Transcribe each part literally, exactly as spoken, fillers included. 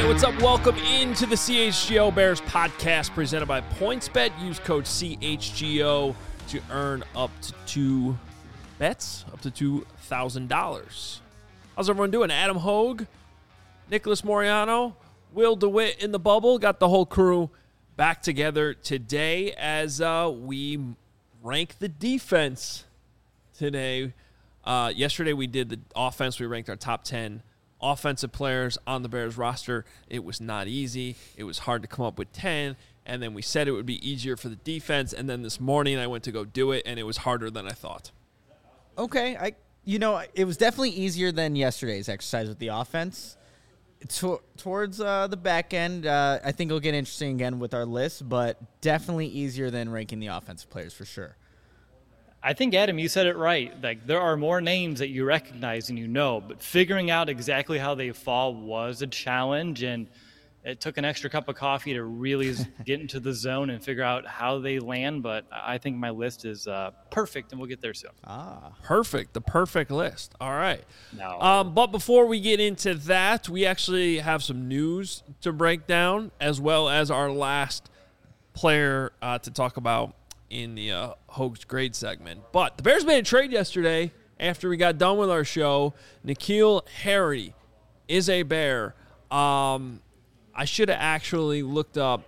what's up? Welcome into the C H G O Bears podcast presented by PointsBet. Use code C H G O to earn up to two bets, up to two thousand dollars. How's everyone doing? Adam Hogue, Nicholas Moriano, Will DeWitt in the bubble. Got the whole crew back together today as uh, we rank the defense today. Uh, yesterday we did the offense. We ranked our top ten offensive players on the Bears roster. It was not easy. It was hard to come up with ten, and then we said it would be easier for the defense, and then this morning I went to go do it, and it was harder than I thought. Okay, I you know, it was definitely easier than yesterday's exercise with the offense. To, towards uh, the back end, uh, I think it'll get interesting again with our list, but definitely easier than ranking the offensive players for sure. I think, Adam, you said it right. Like, there are more names that you recognize and you know, but figuring out exactly how they fall was a challenge, and it took an extra cup of coffee to really get into the zone and figure out how they land, but I think my list is uh, perfect, and we'll get there soon. Ah, perfect. The perfect list. All right. No. Um, but before we get into that, we actually have some news to break down, as well as our last player uh, to talk about in the uh, Hogue's grade segment. But the Bears made a trade yesterday after we got done with our show. N'Keal Harry is a Bear. Um, I should have actually looked up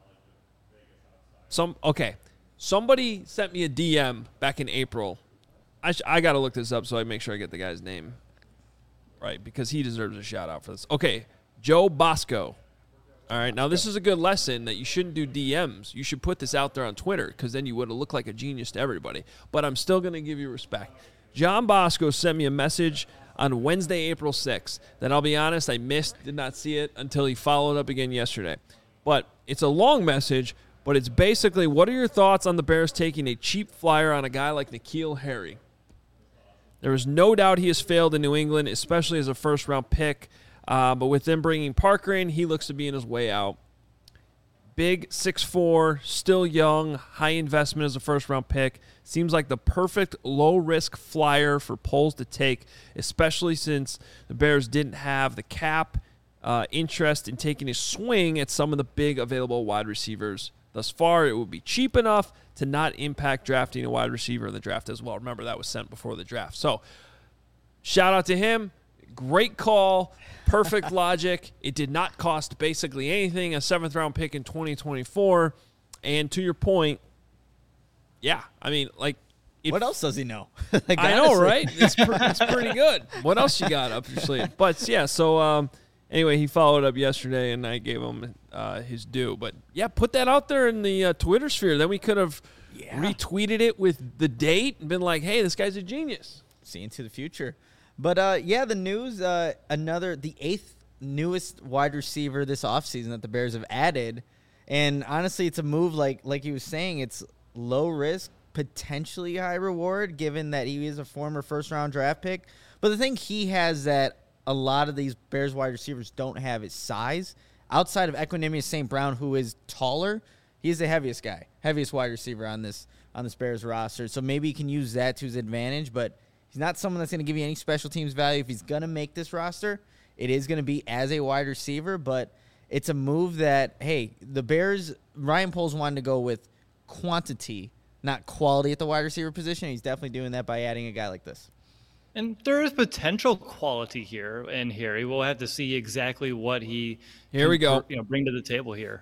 some. Okay, somebody sent me a D M back in April. I sh- I got to look this up so I make sure I get the guy's name right because he deserves a shout out for this. Okay, Joe Bosco. All right, now this is a good lesson that you shouldn't do D Ms. You should put this out there on Twitter because then you would have looked like a genius to everybody. But I'm still going to give you respect. John Bosco sent me a message on Wednesday, April sixth that I'll be honest, I missed, did not see it until he followed up again yesterday. But it's a long message, but it's basically, what are your thoughts on the Bears taking a cheap flyer on a guy like N'Keal Harry? There is no doubt he has failed in New England, especially as a first-round pick. Uh, but with them bringing Parker in, he looks to be in his way out. Big, six foot four, still young, high investment as a first-round pick. Seems like the perfect low-risk flyer for Poles to take, especially since the Bears didn't have the cap uh, interest in taking a swing at some of the big available wide receivers. Thus far, it would be cheap enough to not impact drafting a wide receiver in the draft as well. Remember, that was sent before the draft. So, shout out to him. Great call. Perfect logic. It did not cost basically anything. A seventh-round pick in twenty twenty-four. And to your point, yeah, I mean, like. It, what else does he know? like, I know, right? It's, pre- it's pretty good. What else you got up your sleeve? But, yeah, so um, anyway, he followed up yesterday, and I gave him uh, his due. But, yeah, put that out there in the uh, Twitter sphere. Then we could have yeah. retweeted it with the date and been like, hey, this guy's a genius. See into the future. But, uh, yeah, the news, uh, another, the eighth newest wide receiver this offseason that the Bears have added. And, honestly, it's a move like like he was saying. It's low risk, potentially high reward, given that he is a former first-round draft pick. But the thing he has that a lot of these Bears wide receivers don't have is size. Outside of Equanimeous Saint Brown, who is taller, he is the heaviest guy, heaviest wide receiver on this on this Bears roster. So maybe he can use that to his advantage, but he's not someone that's going to give you any special teams value. If he's going to make this roster, it is going to be as a wide receiver, but it's a move that, hey, the Bears, Ryan Poles wanted to go with quantity, not quality at the wide receiver position. He's definitely doing that by adding a guy like this. And there is potential quality here in Harry. We'll have to see exactly what he here we can, go. You know, bring to the table here.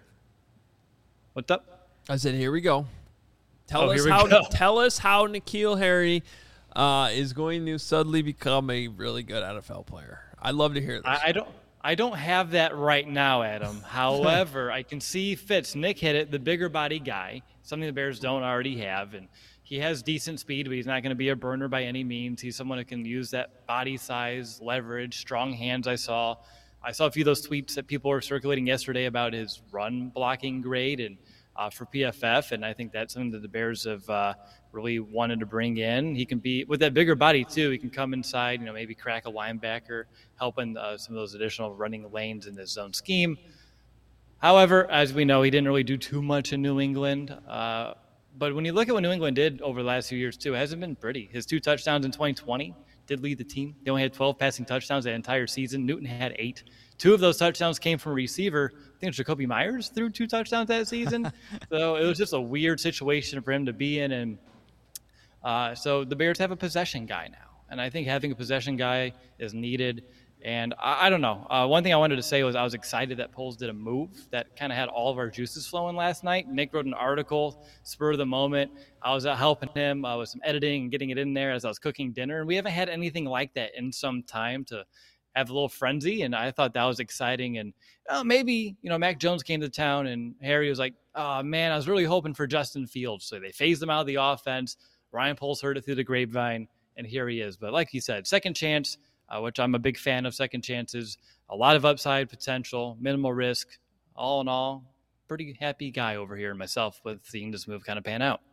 What's up? I said, here we go. Tell oh, us how. Go. Tell us how N'Keal Harry Uh, is going to suddenly become a really good N F L player. I'd love to hear this. I, I don't I don't have that right now, Adam. However, I can see fits. Nick hit it, the bigger body guy, something the Bears don't already have. And he has decent speed, but he's not going to be a burner by any means. He's someone who can use that body size, leverage, strong hands I saw. I saw a few of those tweets that people were circulating yesterday about his run blocking grade and uh, for P F F, and I think that's something that the Bears have uh, really wanted to bring in. He can be, with that bigger body too, he can come inside, you know, maybe crack a linebacker, helping uh, some of those additional running lanes in this zone scheme. However, as we know, he didn't really do too much in New England. Uh, but when you look at what New England did over the last few years too, it hasn't been pretty. His two touchdowns in twenty twenty, did lead the team. They only had twelve passing touchdowns that entire season. Newton had eight. Two of those touchdowns came from a receiver. I think Jacoby Myers threw two touchdowns that season. So it was just a weird situation for him to be in. And uh, so the Bears have a possession guy now. And I think having a possession guy is needed. And I, I don't know. Uh, one thing I wanted to say was I was excited that Poles did a move that kind of had all of our juices flowing last night. Nick wrote an article, spur of the moment. I was uh, helping him uh, with some editing and getting it in there as I was cooking dinner. And we haven't had anything like that in some time to have a little frenzy. And I thought that was exciting. And uh, maybe, you know, Mac Jones came to town and Harry was like, oh, man, I was really hoping for Justin Fields. So they phased him out of the offense. Ryan Poles heard it through the grapevine, and here he is. But like he said, second chance. Uh, which I'm a big fan of second chances, a lot of upside potential, minimal risk. All in all, pretty happy guy over here myself with seeing this move kind of pan out.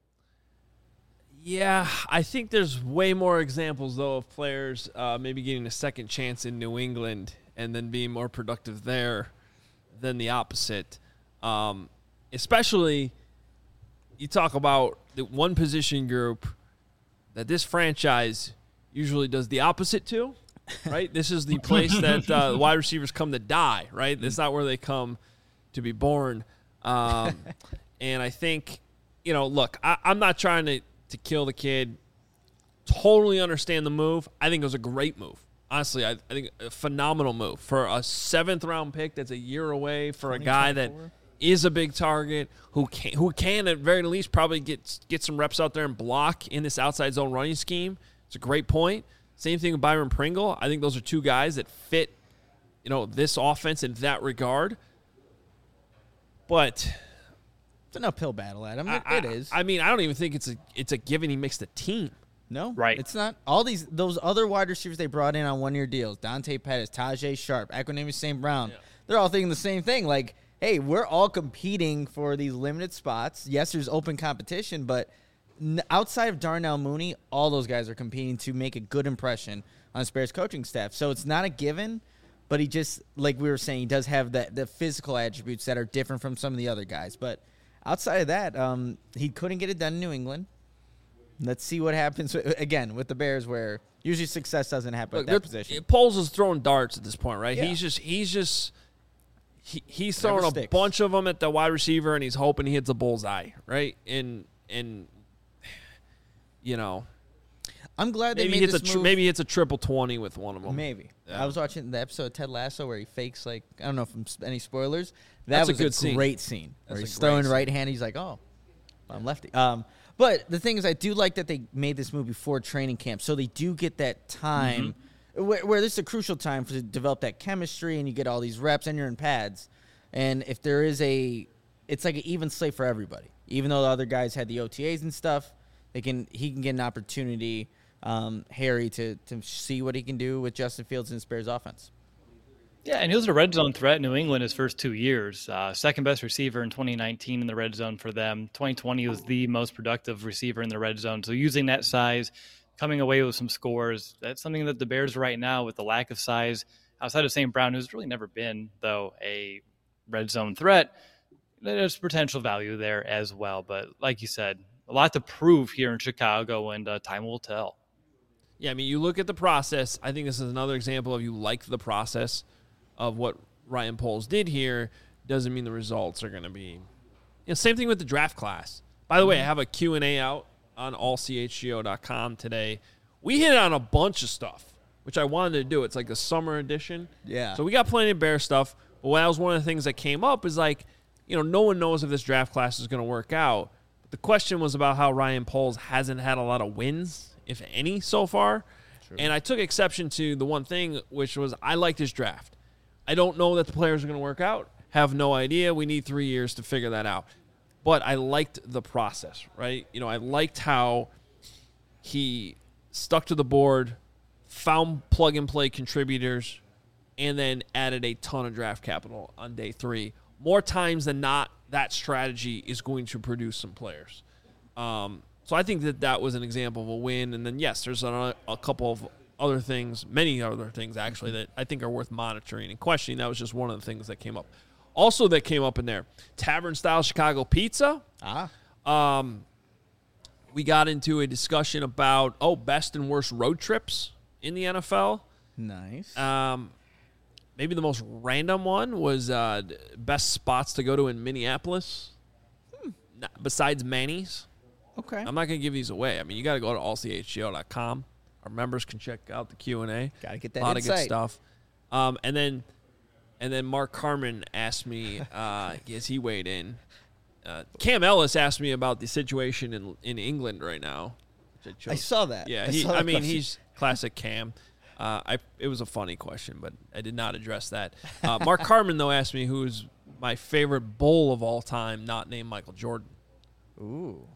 Yeah, I think there's way more examples, though, of players uh, maybe getting a second chance in New England and then being more productive there than the opposite. Um, especially, you talk about the one position group that this franchise usually does the opposite to, right? This is the place that uh, wide receivers come to die, right? It's not where they come to be born. Um, and I think, you know, look, I, I'm not trying to, to kill the kid. Totally understand the move. I think it was a great move. Honestly, I, I think a phenomenal move for a seventh-round pick that's a year away for a guy that is a big target who can, who can at very least probably get, get some reps out there and block in this outside zone running scheme. It's a great point. Same thing with Byron Pringle. I think those are two guys that fit, you know, this offense in that regard. But it's an uphill battle, Adam. It, I, it is. I mean, I don't even think it's a it's a given he makes the team. No, right. It's not. All these those other wide receivers they brought in on one year deals, Dante Pettis, Tajay Sharp, Equanimeous Saint Brown. Yeah. They're all thinking the same thing. Like, hey, we're all competing for these limited spots. Yes, there's open competition, but outside of Darnell Mooney, all those guys are competing to make a good impression on the Bears coaching staff. So it's not a given, but he just, like we were saying, he does have the, the physical attributes that are different from some of the other guys. But outside of that, um, he couldn't get it done in New England. Let's see what happens, again, with the Bears, where usually success doesn't happen Look, at that position. Poles is throwing darts at this point, right? Yeah. He's just he's just he, he's throwing Never a sticks. bunch of them at the wide receiver, and he's hoping he hits a bullseye, right? And and you know, I'm glad they maybe made hits this a tri- move. maybe it's a triple twenty with one of them. Maybe. Yeah. I was watching the episode of Ted Lasso where he fakes, like, I don't know if I'm, any spoilers. That That's a was good scene. great scene. That's Where a he's great throwing scene. right hand. He's like, oh, I'm lefty. Um, but the thing is, I do like that they made this move before training camp. So they do get that time Mm-hmm. where, where this is a crucial time for to develop that chemistry and you get all these reps and you're in pads. And if there is a, it's like an even slate for everybody. Even though the other guys had the O T As and stuff, they can he can get an opportunity, um, Harry, to to see what he can do with Justin Fields and his Bears offense. Yeah, and he was a red zone threat in New England his first two years. Uh, second best receiver in twenty nineteen in the red zone for them. twenty twenty was the most productive receiver in the red zone. So using that size, coming away with some scores, that's something that the Bears right now, with the lack of size, outside of Saint Brown, who's really never been, though, a red zone threat, there's potential value there as well. But like you said, a lot to prove here in Chicago, and uh, time will tell. Yeah, I mean, you look at the process. I think this is another example of you like the process of what Ryan Poles did here. Doesn't mean the results are going to be. You know, same thing with the draft class. By the way, I have a Q and A out on all c h g o dot com today. We hit on a bunch of stuff, which I wanted to do. It's like the summer edition. Yeah. So we got plenty of Bear stuff. But that was one of the things that came up is like, you know, no one knows if this draft class is going to work out. But the question was about how Ryan Poles hasn't had a lot of wins, if any, so far. True. And I took exception to the one thing, which was I liked his draft. I don't know that the players are going to work out. Have no idea. We need three years to figure that out. But I liked the process, right? You know, I liked how he stuck to the board, found plug-and-play contributors, and then added a ton of draft capital on day three. More times than not, that strategy is going to produce some players. Um, so I think that that was an example of a win. And then, yes, there's a, a couple of other things, many other things, actually, that I think are worth monitoring and questioning. That was just one of the things that came up. Also that came up in there, Tavern-style Chicago pizza. Ah. Um, we got into a discussion about, oh, best and worst road trips in the N F L. Nice. Um, maybe the most random one was uh, best spots to go to in Minneapolis, hmm. besides Manny's. Okay. I'm not going to give these away. I mean, you got to go to all c h g o dot com. Our members can check out the Q and A. Got to get that A lot insight. of good stuff. Um, and then and then Mark Carman asked me, uh, as he weighed in, uh, Cam Ellis asked me about the situation in in England right now. Which I, chose. I saw that. Yeah, I, he, saw that I mean, question. he's classic Cam. Uh, I it was a funny question, but I did not address that. Uh, Mark Carman, though, asked me who's my favorite bull of all time, not named Michael Jordan. Ooh.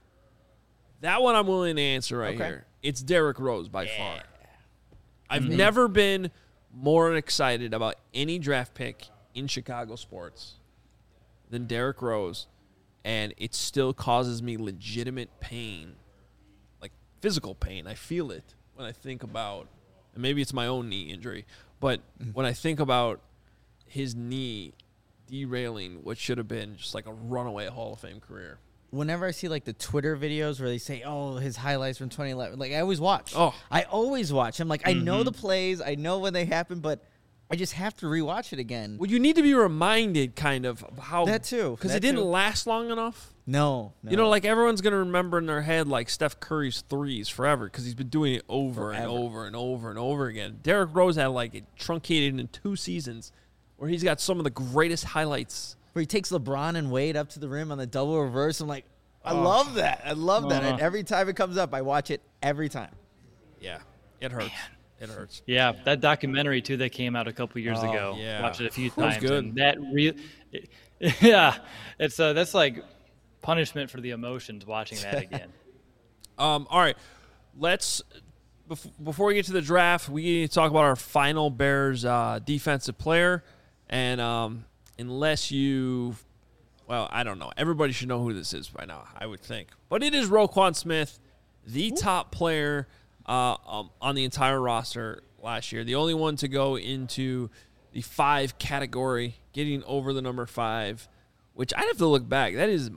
That one I'm willing to answer right Okay. here. It's Derrick Rose by Yeah. far. I've Mm-hmm. never been more excited about any draft pick in Chicago sports than Derrick Rose, and it still causes me legitimate pain, like physical pain. I feel it when I think about, and maybe it's my own knee injury, but when I think about his knee derailing what should have been just like a runaway Hall of Fame career. Whenever I see like the Twitter videos where they say, "Oh, his highlights from twenty eleven," like I always watch. Oh. I always watch. I'm like, I know Mm-hmm. the plays, I know when they happen, but I just have to rewatch it again. Well, you need to be reminded, kind of, of how That too. because That it didn't too. last long enough. No, no. You know, like everyone's gonna remember in their head like Steph Curry's threes forever because he's been doing it over and Forever. over and over and over again. Derrick Rose had like it truncated in two seasons, where he's got some of the greatest highlights. where he takes LeBron and Wade up to the rim on the double reverse. I'm like, I love that. I love that. Uh-huh. And every time it comes up, I watch it every time. Yeah, it hurts. It hurts. Yeah, that documentary too that came out a couple years Oh, ago. yeah. Watched it a few That was times. good. And that real, yeah, it's uh, that's like punishment for the emotions watching that again. Um, all right, let's bef- before we get to the draft, we need to talk about our final Bears uh, defensive player, and um, unless you, well, I don't know. Everybody should know who this is by now, I would think, but it is Roquan Smith, the top player uh, um, on the entire roster last year, the only one to go into the five category, getting over the number five, which I'd have to look back. That is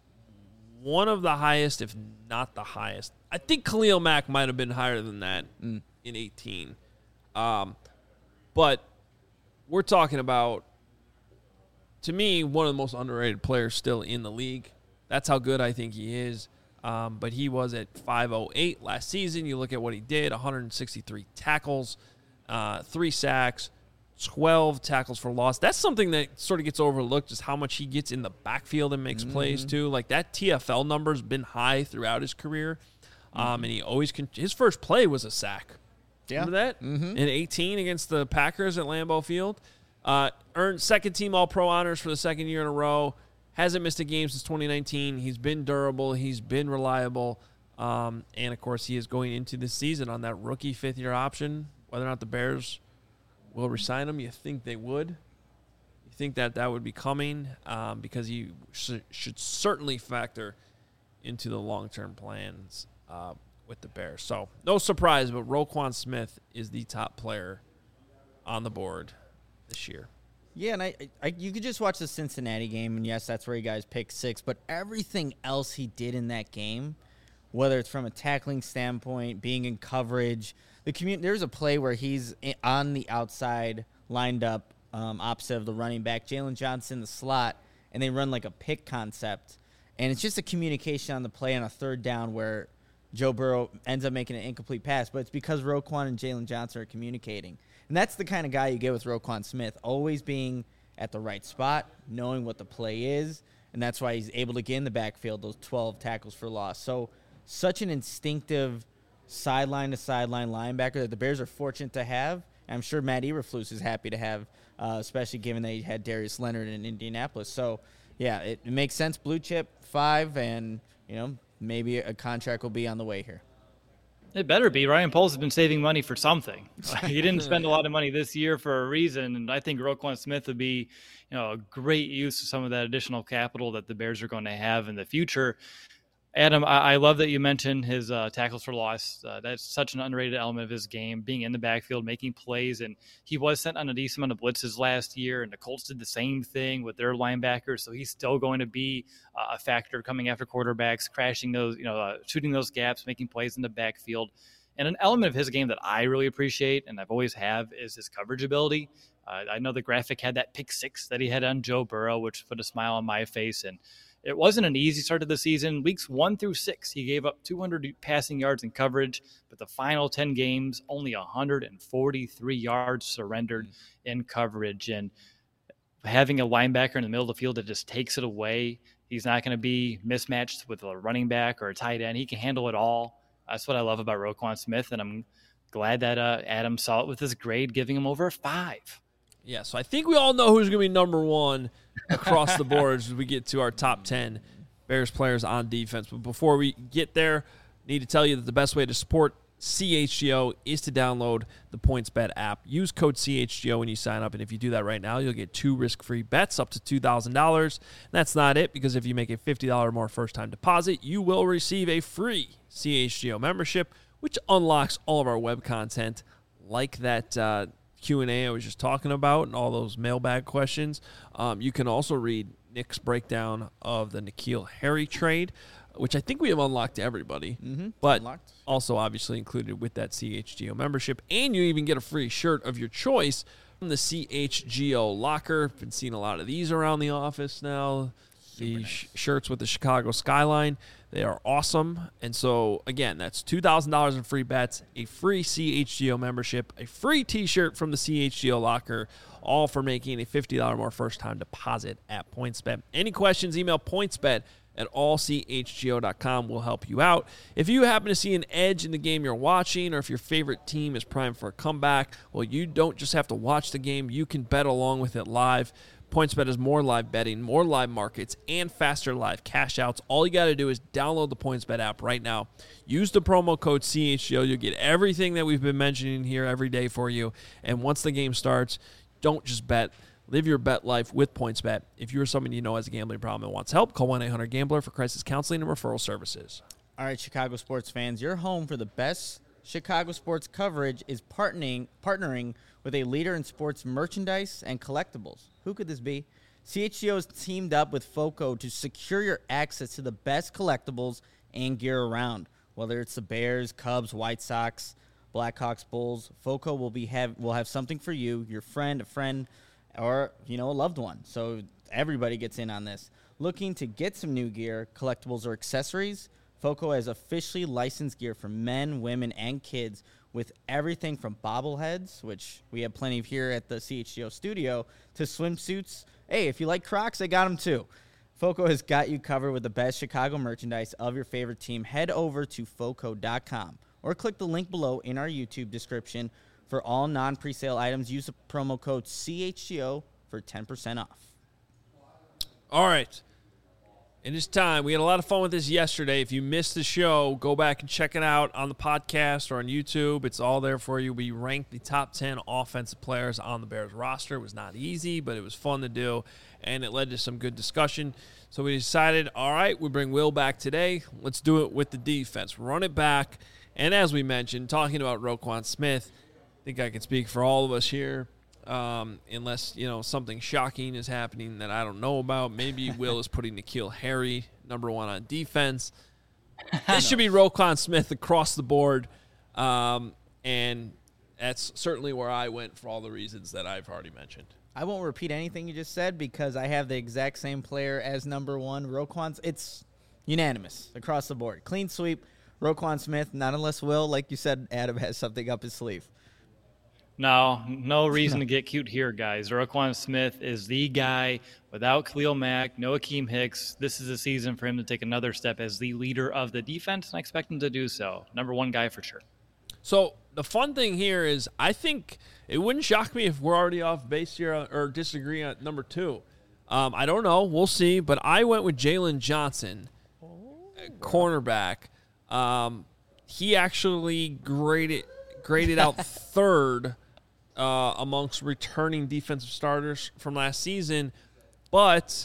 one of the highest, if not the highest. I think Khalil Mack might have been higher than that in eighteen. Um, but we're talking about, to me, one of the most underrated players still in the league. That's how good I think he is. Um, but he was at five oh eight last season. You look at what he did, one hundred sixty-three tackles, uh, three sacks, twelve tackles for loss. That's something that sort of gets overlooked, just how much he gets in the backfield and makes plays too. Like that T F L number's been high throughout his career, um, and he always con- his first play was a sack. Yeah. Remember that in eighteen against the Packers at Lambeau Field. Uh, earned second team All Pro honors for the second year in a row. Hasn't missed a game since twenty nineteen. He's been durable. He's been reliable. Um, and, of course, he is going into this season on that rookie fifth-year option. Whether or not the Bears will resign him, you think they would. You think that that would be coming um, because he sh- should certainly factor into the long-term plans uh, with the Bears. So, no surprise, but Roquan Smith is the top player on the board this year. Yeah, and I, I, you could just watch the Cincinnati game, and yes, that's where you guys picked six. But everything else he did in that game, whether it's from a tackling standpoint, being in coverage, the community. There's a play where he's in, on the outside, lined up um, opposite of the running back, Jalen Johnson, the slot, and they run like a pick concept, and it's just a communication on the play on a third down where Joe Burrow ends up making an incomplete pass, but it's because Roquan and Jalen Johnson are communicating. And that's the kind of guy you get with Roquan Smith, always being at the right spot, knowing what the play is, and that's why he's able to get in the backfield, those twelve tackles for loss. So such an instinctive sideline-to-sideline linebacker that the Bears are fortunate to have. And I'm sure Matt Eberflus is happy to have, uh, especially given that he had Darius Leonard in Indianapolis. So, yeah, it, it makes sense. Blue chip, five, and, you know, maybe a contract will be on the way here. It better be. Ryan Poles has been saving money for something. He didn't spend a lot of money this year for a reason, and I think Roquan Smith would be, you know, a great use of some of that additional capital that the Bears are going to have in the future. Adam, I, I love that you mentioned his uh, tackles for loss. Uh, that's such an underrated element of his game, being in the backfield, making plays. And he was sent on a decent amount of blitzes last year, and the Colts did the same thing with their linebackers. So he's still going to be uh, a factor coming after quarterbacks, crashing those, you know, uh, shooting those gaps, making plays in the backfield. And an element of his game that I really appreciate, and I've always have, is his coverage ability. Uh, I know the graphic had that pick six that he had on Joe Burrow, which put a smile on my face. And it wasn't an easy start to the season. Weeks one through six, he gave up two hundred passing yards in coverage, but the final ten games, only one hundred forty-three yards surrendered in coverage. And having a linebacker in the middle of the field that just takes it away, he's not going to be mismatched with a running back or a tight end. He can handle it all. That's what I love about Roquan Smith, and I'm glad that uh, Adam saw it with his grade, giving him over a five. Yeah, so I think we all know who's going to be number one across the board as we get to our top ten Bears players on defense. But before we get there, I need to tell you that the best way to support C H G O is to download the PointsBet app. Use code C H G O when you sign up, and if you do that right now, you'll get two risk-free bets up to two thousand dollars. And that's not it, because if you make a fifty dollars or more first-time deposit, you will receive a free C H G O membership, which unlocks all of our web content, like that uh, Q and A I was just talking about and all those mailbag questions. Um, you can also read Nick's breakdown of the N'Keal Harry trade, which I think we have unlocked to everybody, Mm-hmm. but Unlocked. also obviously included with that C H G O membership. And you even get a free shirt of your choice from the C H G O locker. Been seeing a lot of these around the office now. The nice. sh- shirts with the Chicago skyline. They are awesome. And so, again, that's two thousand dollars in free bets, a free C H G O membership, a free T-shirt from the C H G O locker, all for making a fifty dollars more first-time deposit at PointsBet. Any questions, email PointsBet at all c h g o dot com. Will help you out. If you happen to see an edge in the game you're watching, or if your favorite team is primed for a comeback, well, you don't just have to watch the game. You can bet along with it live. PointsBet has more live betting, more live markets, and faster live cash outs. All you got to do is download the PointsBet app right now. Use the promo code C H G O. You'll get everything that we've been mentioning here every day for you. And once the game starts, don't just bet. Live your bet life with PointsBet. If you're someone you know has a gambling problem and wants help, call one eight hundred gambler for crisis counseling and referral services. All right, Chicago sports fans, your home for the best Chicago sports coverage is partnering partnering with a leader in sports merchandise and collectibles. Who could this be? C H G O has teamed up with FOCO to secure your access to the best collectibles and gear around. Whether it's the Bears, Cubs, White Sox, Blackhawks, Bulls, FOCO will be have will have something for you, your friend, a friend, or you know a loved one. So everybody gets in on this. Looking to get some new gear, collectibles, or accessories? FOCO has officially licensed gear for men, women, and kids with everything from bobbleheads, which we have plenty of here at the C H G O studio, to swimsuits. Hey, if you like Crocs, I got them too. FOCO has got you covered with the best Chicago merchandise of your favorite team. Head over to foco dot com or click the link below in our YouTube description. For all non-presale items, use the promo code C H G O for ten percent off. All right. It is time. We had a lot of fun with this yesterday. If you missed the show, go back and check it out on the podcast or on YouTube. It's all there for you. We ranked the top ten offensive players on the Bears roster. It was not easy, but it was fun to do, and it led to some good discussion. So we decided, all right, we bring Will back today. Let's do it with the defense. Run it back. And as we mentioned, talking about Roquan Smith, I think I can speak for all of us here. Um, unless, you know, something shocking is happening that I don't know about. Maybe Will is putting N'Keal Harry number one on defense. This should be Roquan Smith across the board. Um, and that's certainly where I went for all the reasons that I've already mentioned. I won't repeat anything you just said because I have the exact same player as number one. Roquan's, it's unanimous across the board. Clean sweep, Roquan Smith, not unless Will, like you said, Adam has something up his sleeve. No, no reason to get cute here, guys. Roquan Smith is the guy without Khalil Mack, no Akeem Hicks. This is a season for him to take another step as the leader of the defense, and I expect him to do so. Number one guy for sure. So the fun thing here is I think it wouldn't shock me if we're already off base here or disagree on number two. Um, I don't know. We'll see. But I went with Jalen Johnson, cornerback. Um, he actually graded, graded out third Uh, amongst returning defensive starters from last season, but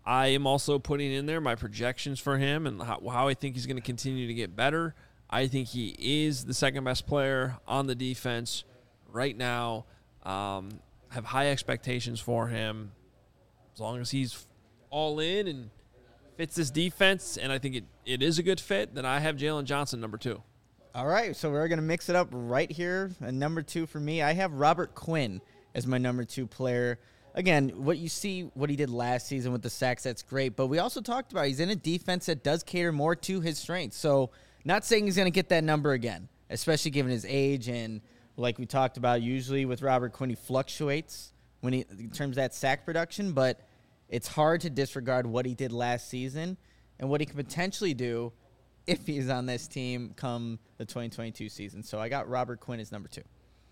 I am also putting in there my projections for him and how, how I think he's going to continue to get better. I think he is the second best player on the defense right now. Um, have high expectations for him as long as he's all in and fits this defense, and I think it, it is a good fit. Then I have Jalen Johnson number two. All right, so we're going to mix it up right here. And number two for me, I have Robert Quinn as my number two player. Again, what you see, what he did last season with the sacks, that's great. But we also talked about he's in a defense that does cater more to his strengths. So not saying he's going to get that number again, especially given his age. And like we talked about, usually with Robert Quinn, he fluctuates when he in terms of that sack production. But it's hard to disregard what he did last season and what he could potentially do if he's on this team come the twenty twenty-two season. So I got Robert Quinn as number two.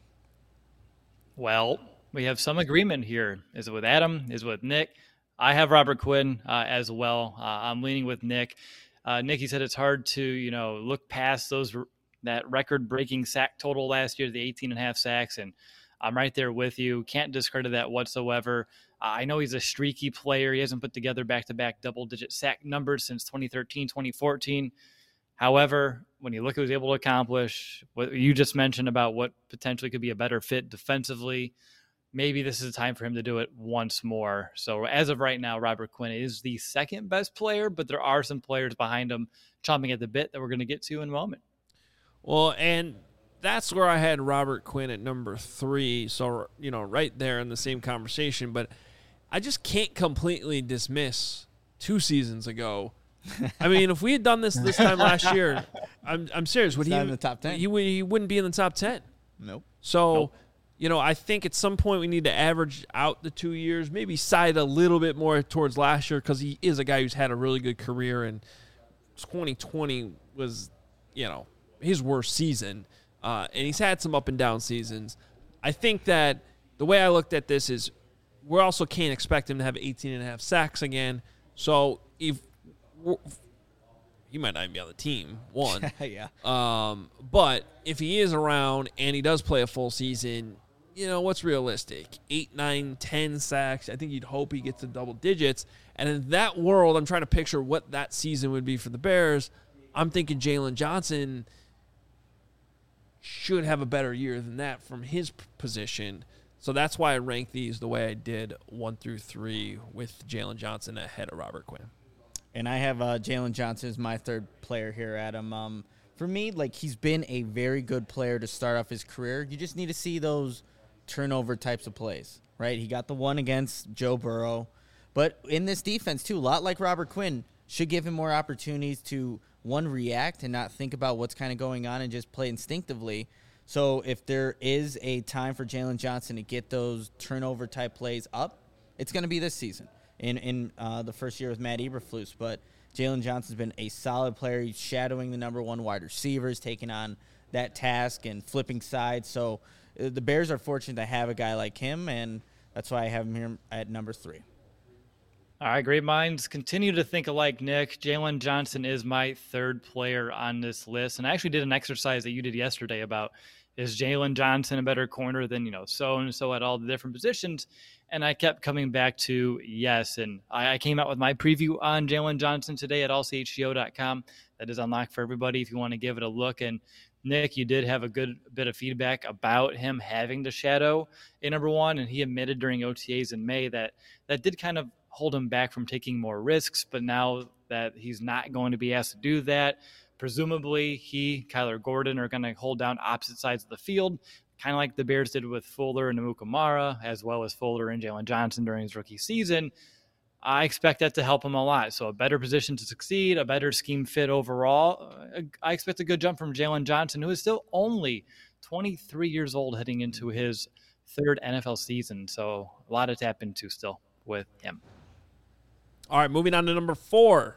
Well, we have some agreement here. Is it with Adam? Is it with Nick? I have Robert Quinn uh, as well. Uh, I'm leaning with Nick. Uh, Nick, he said it's hard to, you know, look past those that record-breaking sack total last year, the eighteen and a half sacks, and I'm right there with you. Can't discredit that whatsoever. Uh, I know he's a streaky player. He hasn't put together back-to-back double-digit sack numbers since twenty thirteen, twenty fourteen. However, when you look at what he was able to accomplish, what you just mentioned about what potentially could be a better fit defensively, maybe this is a time for him to do it once more. So as of right now, Robert Quinn is the second best player, but there are some players behind him chomping at the bit that we're going to get to in a moment. Well, and that's where I had Robert Quinn at number three. So, you know, right there in the same conversation. But I just can't completely dismiss two seasons ago. I mean, if we had done this this time last year, I'm I'm serious. Would He's he not in the top ten? He would he wouldn't be in the top ten. Nope. So, Nope. you know, I think at some point we need to average out the two years, maybe side a little bit more towards last year because he is a guy who's had a really good career, and twenty twenty was, you know, his worst season, uh, and he's had some up and down seasons. I think that the way I looked at this is we also can't expect him to have eighteen and a half sacks again. So if he might not even be on the team, one. yeah. Um, but if he is around and he does play a full season, you know, what's realistic? Eight, nine, ten sacks. I think you'd hope he gets to double digits. And in that world, I'm trying to picture what that season would be for the Bears. I'm thinking Jalen Johnson should have a better year than that from his p- position. So that's why I rank these the way I did, one through three, with Jalen Johnson ahead of Robert Quinn. And I have uh, Jalen Johnson as my third player here, Adam. Um, for me, like, he's been a very good player to start off his career. You just need to see those turnover types of plays, right? He got the one against Joe Burrow. But in this defense, too, a lot like Robert Quinn, should give him more opportunities to, one, react and not think about what's kind of going on and just play instinctively. So if there is a time for Jalen Johnson to get those turnover-type plays up, it's going to be this season. in in uh, the first year with Matt Eberflus. But Jalen Johnson's been a solid player. He's shadowing the number one wide receivers, taking on that task and flipping sides. So uh, the Bears are fortunate to have a guy like him, and that's why I have him here at number three. All right, great minds continue to think alike, Nick. Jalen Johnson is my third player on this list. And I actually did an exercise that you did yesterday about, is Jalen Johnson a better corner than, you know, so-and-so at all the different positions? And I kept coming back to yes. And I, I came out with my preview on Jalen Johnson today at all c h g o dot com. That is unlocked for everybody if you want to give it a look. And Nick, you did have a good bit of feedback about him having to shadow a number one. And he admitted during O T As in May that that did kind of hold him back from taking more risks. But now that he's not going to be asked to do that, presumably he, Kyler Gordon, are going to hold down opposite sides of the field, kind of like the Bears did with Fuller and Amukamara, as well as Fuller and Jalen Johnson during his rookie season. I expect that to help him a lot. So a better position to succeed, a better scheme fit overall. I expect a good jump from Jalen Johnson, who is still only twenty-three years old heading into his third N F L season. So a lot to tap into still with him. All right, moving on to number four.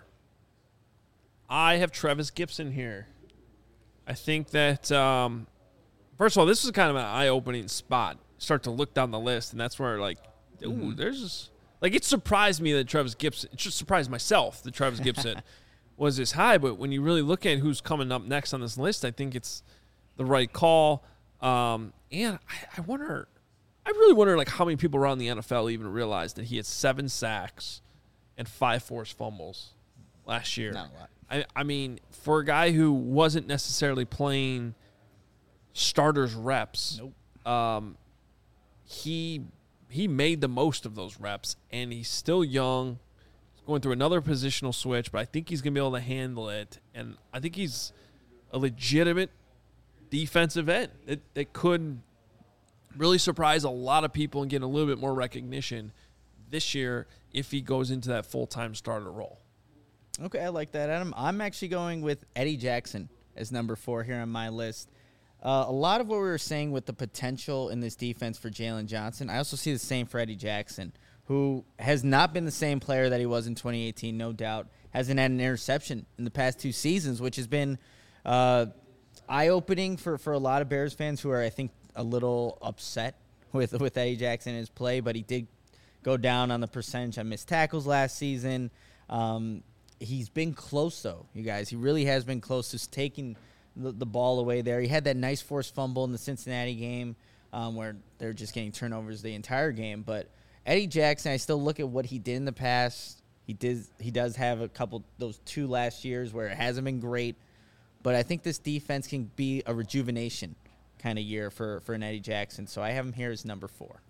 I have Trevis Gipson here. I think that, um, first of all, this is kind of an eye-opening spot. Start to look down the list, and that's where, like, ooh, mm-hmm. there's this. Like, it surprised me that Trevis Gipson, it just surprised myself that Trevis Gipson was this high, but when you really look at who's coming up next on this list, I think it's the right call. Um, and I, I wonder, I really wonder, like, how many people around the N F L even realize that he had seven sacks and five forced fumbles last year. Not a lot. I, I mean, for a guy who wasn't necessarily playing starters reps, Nope. um, he he made the most of those reps, and he's still young. He's going through another positional switch, but I think he's going to be able to handle it, and I think he's a legitimate defensive end that, that could really surprise a lot of people and get a little bit more recognition this year if he goes into that full-time starter role. Okay, I like that, Adam. I'm actually going with Eddie Jackson as number four here on my list. Uh, a lot of what we were saying with the potential in this defense for Jalen Johnson, I also see the same for Eddie Jackson, who has not been the same player that he was in twenty eighteen, no doubt. Hasn't had an interception in the past two seasons, which has been uh, eye-opening for, for a lot of Bears fans who are, I think, a little upset with, with Eddie Jackson in his play, but he did go down on the percentage on missed tackles last season. Um, he's been close, though, you guys. He really has been close to taking the, the ball away there. He had that nice forced fumble in the Cincinnati game um, where they're just getting turnovers the entire game. But Eddie Jackson, I still look at what he did in the past. He did. He does have a couple, those two last years where it hasn't been great. But I think this defense can be a rejuvenation kind of year for, for an Eddie Jackson. So I have him here as number four.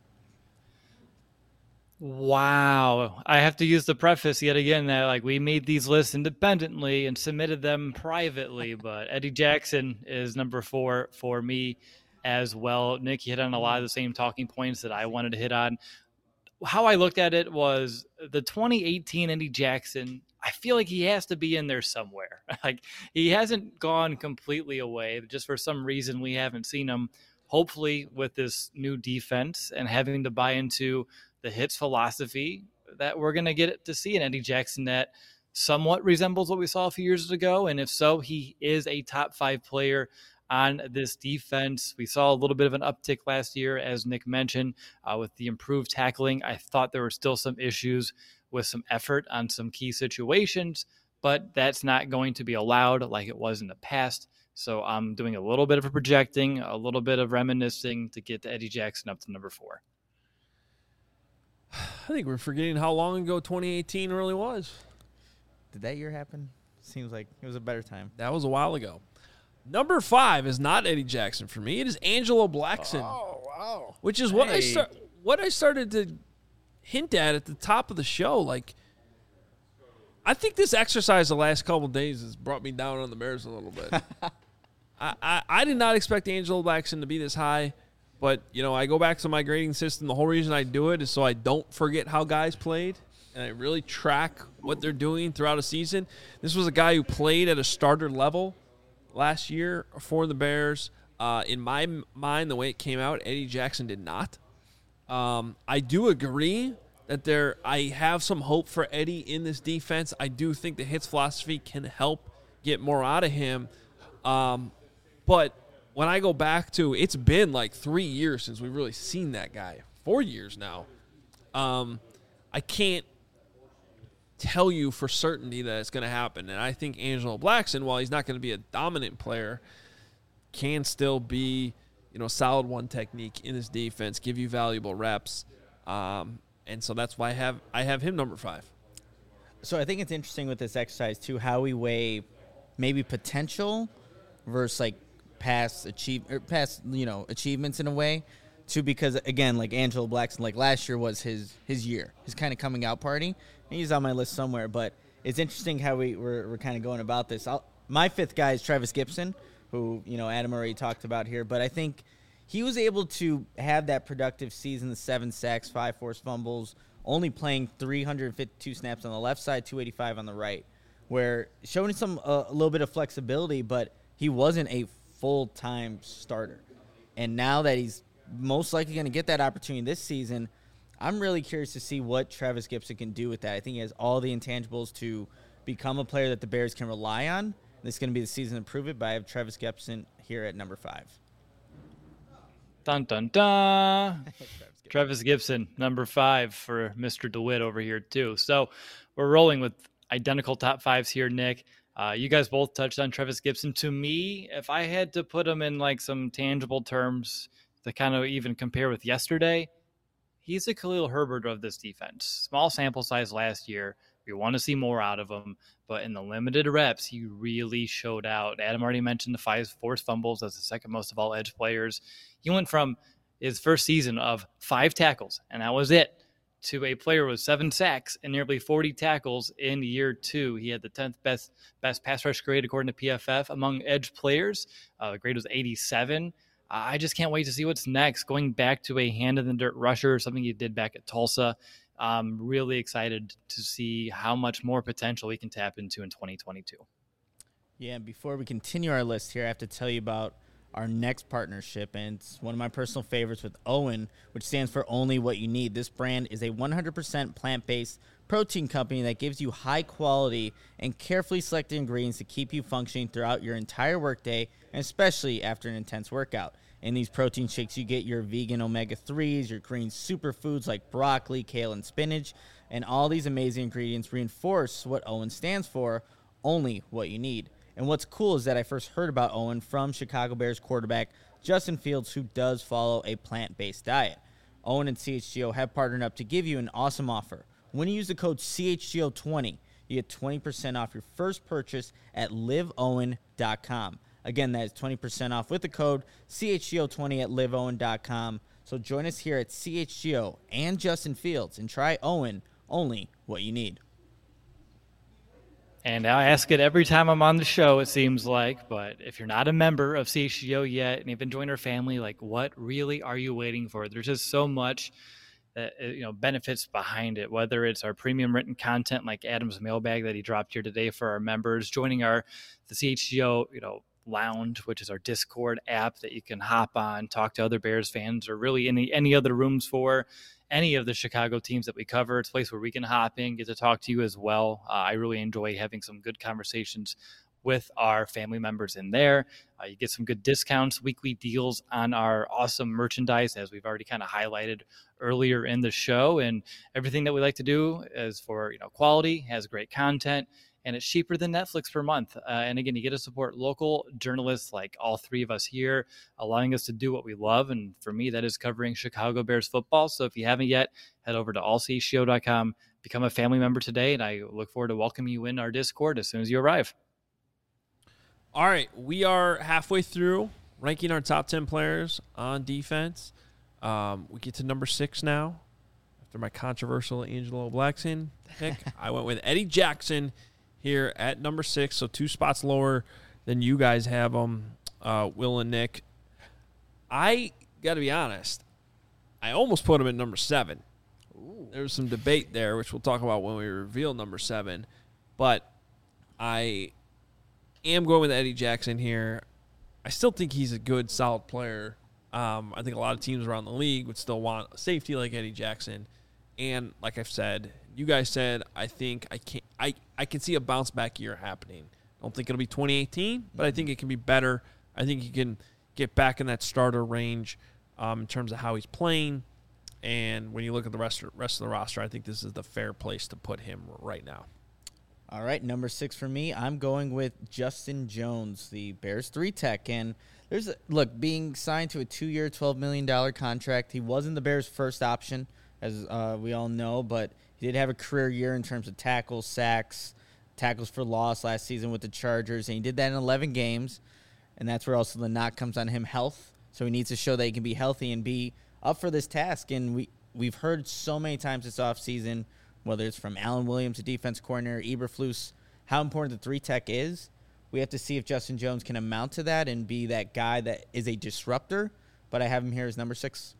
Wow. I have to use the preface yet again that like we made these lists independently and submitted them privately, but Eddie Jackson is number four for me as well. Nick, you hit on a lot of the same talking points that I wanted to hit on. How I looked at it was the twenty eighteen Eddie Jackson, I feel like he has to be in there somewhere. Like he hasn't gone completely away, but just for some reason we haven't seen him. Hopefully with this new defense and having to buy into the hits philosophy that we're going to get to see an Eddie Jackson that somewhat resembles what we saw a few years ago. And if so, he is a top five player on this defense. We saw a little bit of an uptick last year, as Nick mentioned, uh, with the improved tackling. I thought there were still some issues with some effort on some key situations, but that's not going to be allowed like it was in the past. So I'm doing a little bit of a projecting, a little bit of reminiscing to get Eddie Jackson up to number four. I think we're forgetting how long ago twenty eighteen really was. Did that year happen? Seems like it was a better time. That was a while ago. Number five is not Eddie Jackson for me. It is Angelo Blackson. Oh, wow. Which is what Hey. I start, what I started to hint at at the top of the show. Like, I think this exercise the last couple of days has brought me down on the Bears a little bit. I, I, I did not expect Angelo Blackson to be this high. But, you know, I go back to my grading system. The whole reason I do it is so I don't forget how guys played, and I really track what they're doing throughout a season. This was a guy who played at a starter level last year for the Bears. Uh, in my m- mind, the way it came out, Eddie Jackson did not. Um, I do agree that there. I have some hope for Eddie in this defense. I do think the hits philosophy can help get more out of him. Um, but when I go back to, it's been like three years since we've really seen that guy. Four years now. Um, I can't tell you for certainty that it's going to happen. And I think Angelo Blackson, while he's not going to be a dominant player, can still be, you know, solid one technique in his defense, give you valuable reps. Um, and so that's why I have I have him number five. So I think it's interesting with this exercise, too, how we weigh maybe potential versus, like, past achieve or past you know achievements in a way too, because again, like Angelo Blackson, like last year was his his year, his kind of coming out party, and he's on my list somewhere. But it's interesting how we we're, we're kind of going about this. I'll, my fifth guy is Travis Gibson, who you know Adam already talked about here, but I think he was able to have that productive season, the seven sacks, five forced fumbles, only playing three hundred fifty-two snaps on the left side, two eighty-five on the right, where showing some uh, a little bit of flexibility, but he wasn't a full-time starter. And now that he's most likely going to get that opportunity this season, I'm really curious to see what Travis Gibson can do with that. I think he has all the intangibles to become a player that the Bears can rely on. This is going to be the season to prove it, but I have Travis Gibson here at number five. Dun, dun, dun. Travis Gibson, number five for Mister DeWitt over here, too. So we're rolling with identical top fives here, Nick. Uh, you guys both touched on Travis Gibson. To me, if I had to put him in like some tangible terms to kind of even compare with yesterday, he's a Khalil Herbert of this defense. Small sample size last year, We want to see more out of him. But in the limited reps, he really showed out. Adam already mentioned the five forced fumbles. That's the second most of all edge players. He went from his first season of five tackles, and that was it, to a player with seven sacks and nearly forty tackles in year two. He had the tenth best best pass rush grade according to P F F among edge players. Uh, the grade was eighty-seven. I just can't wait to see what's next. Going back to a hand-in-the-dirt rusher, something he did back at Tulsa. I'm really excited to see how much more potential we can tap into in twenty twenty-two. Yeah, and before we continue our list here, I have to tell you about our next partnership, and it's one of my personal favorites with OWYN, which stands for Only What You Need. This brand is a one hundred percent plant-based protein company that gives you high-quality and carefully selected ingredients to keep you functioning throughout your entire workday, and especially after an intense workout. In these protein shakes, you get your vegan omega threes, your green superfoods like broccoli, kale, and spinach, and all these amazing ingredients reinforce what OWYN stands for, only what you need. And what's cool is that I first heard about OWYN from Chicago Bears quarterback Justin Fields, who does follow a plant-based diet. OWYN and C H G O have partnered up to give you an awesome offer. When you use the code C H G O twenty, you get twenty percent off your first purchase at live owen dot com. Again, that is twenty percent off with the code C H G O twenty at live owen dot com. So join us here at C H G O and Justin Fields and try OWYN, only what you need. And I ask it every time I'm on the show, it seems like, but if you're not a member of C H G O yet and you've been joining our family, like, what really are you waiting for? There's just so much that, you know, benefits behind it, whether it's our premium written content like Adam's mailbag that he dropped here today for our members, joining our the C H G O, you know, Lounge, which is our Discord app that you can hop on, talk to other Bears fans, or really any any other rooms for any of the Chicago teams that we cover. It's a place where we can hop in, get to talk to you as well. Uh, I really enjoy having some good conversations with our family members in there. Uh, you get some good discounts, weekly deals on our awesome merchandise, as we've already kind of highlighted earlier in the show. And everything that we like to do is for, you know, quality, has great content, and it's cheaper than Netflix per month. Uh, and again, you get to support local journalists like all three of us here, allowing us to do what we love. And for me, that is covering Chicago Bears football. So if you haven't yet, head over to all c h g o dot com, become a family member today. And I look forward to welcoming you in our Discord as soon as you arrive. All right, we are halfway through ranking our top ten players on defense. Um, we get to number six now. After my controversial Angelo Blackson pick, I went with Eddie Jackson here at number six, so two spots lower than you guys have them, uh, Will and Nick. I got to be honest, I almost put him at number seven. Ooh. There was some debate there, which we'll talk about when we reveal number seven, but I am going with Eddie Jackson here. I still think he's a good, solid player. Um, I think a lot of teams around the league would still want a safety like Eddie Jackson. And like I've said, you guys said, I think I can I, I can see a bounce back year happening. I don't think it'll be twenty eighteen, but I think it can be better. I think he can get back in that starter range um, in terms of how he's playing. And when you look at the rest of, rest of the roster, I think this is the fair place to put him right now. All right, number six for me, I'm going with Justin Jones, the Bears three tech. And there's a, look, being signed to a two-year, twelve million dollars contract, he wasn't the Bears' first option, as uh, we all know, but he did have a career year in terms of tackles, sacks, tackles for loss last season with the Chargers, and he did that in eleven games, and that's where also the knock comes on him, health. So he needs to show that he can be healthy and be up for this task. And we, we've heard so many times this offseason, whether it's from Alan Williams, the defense coordinator, Eberflus, how important the three tech is. We have to see if Justin Jones can amount to that and be that guy that is a disruptor, but I have him here as number six.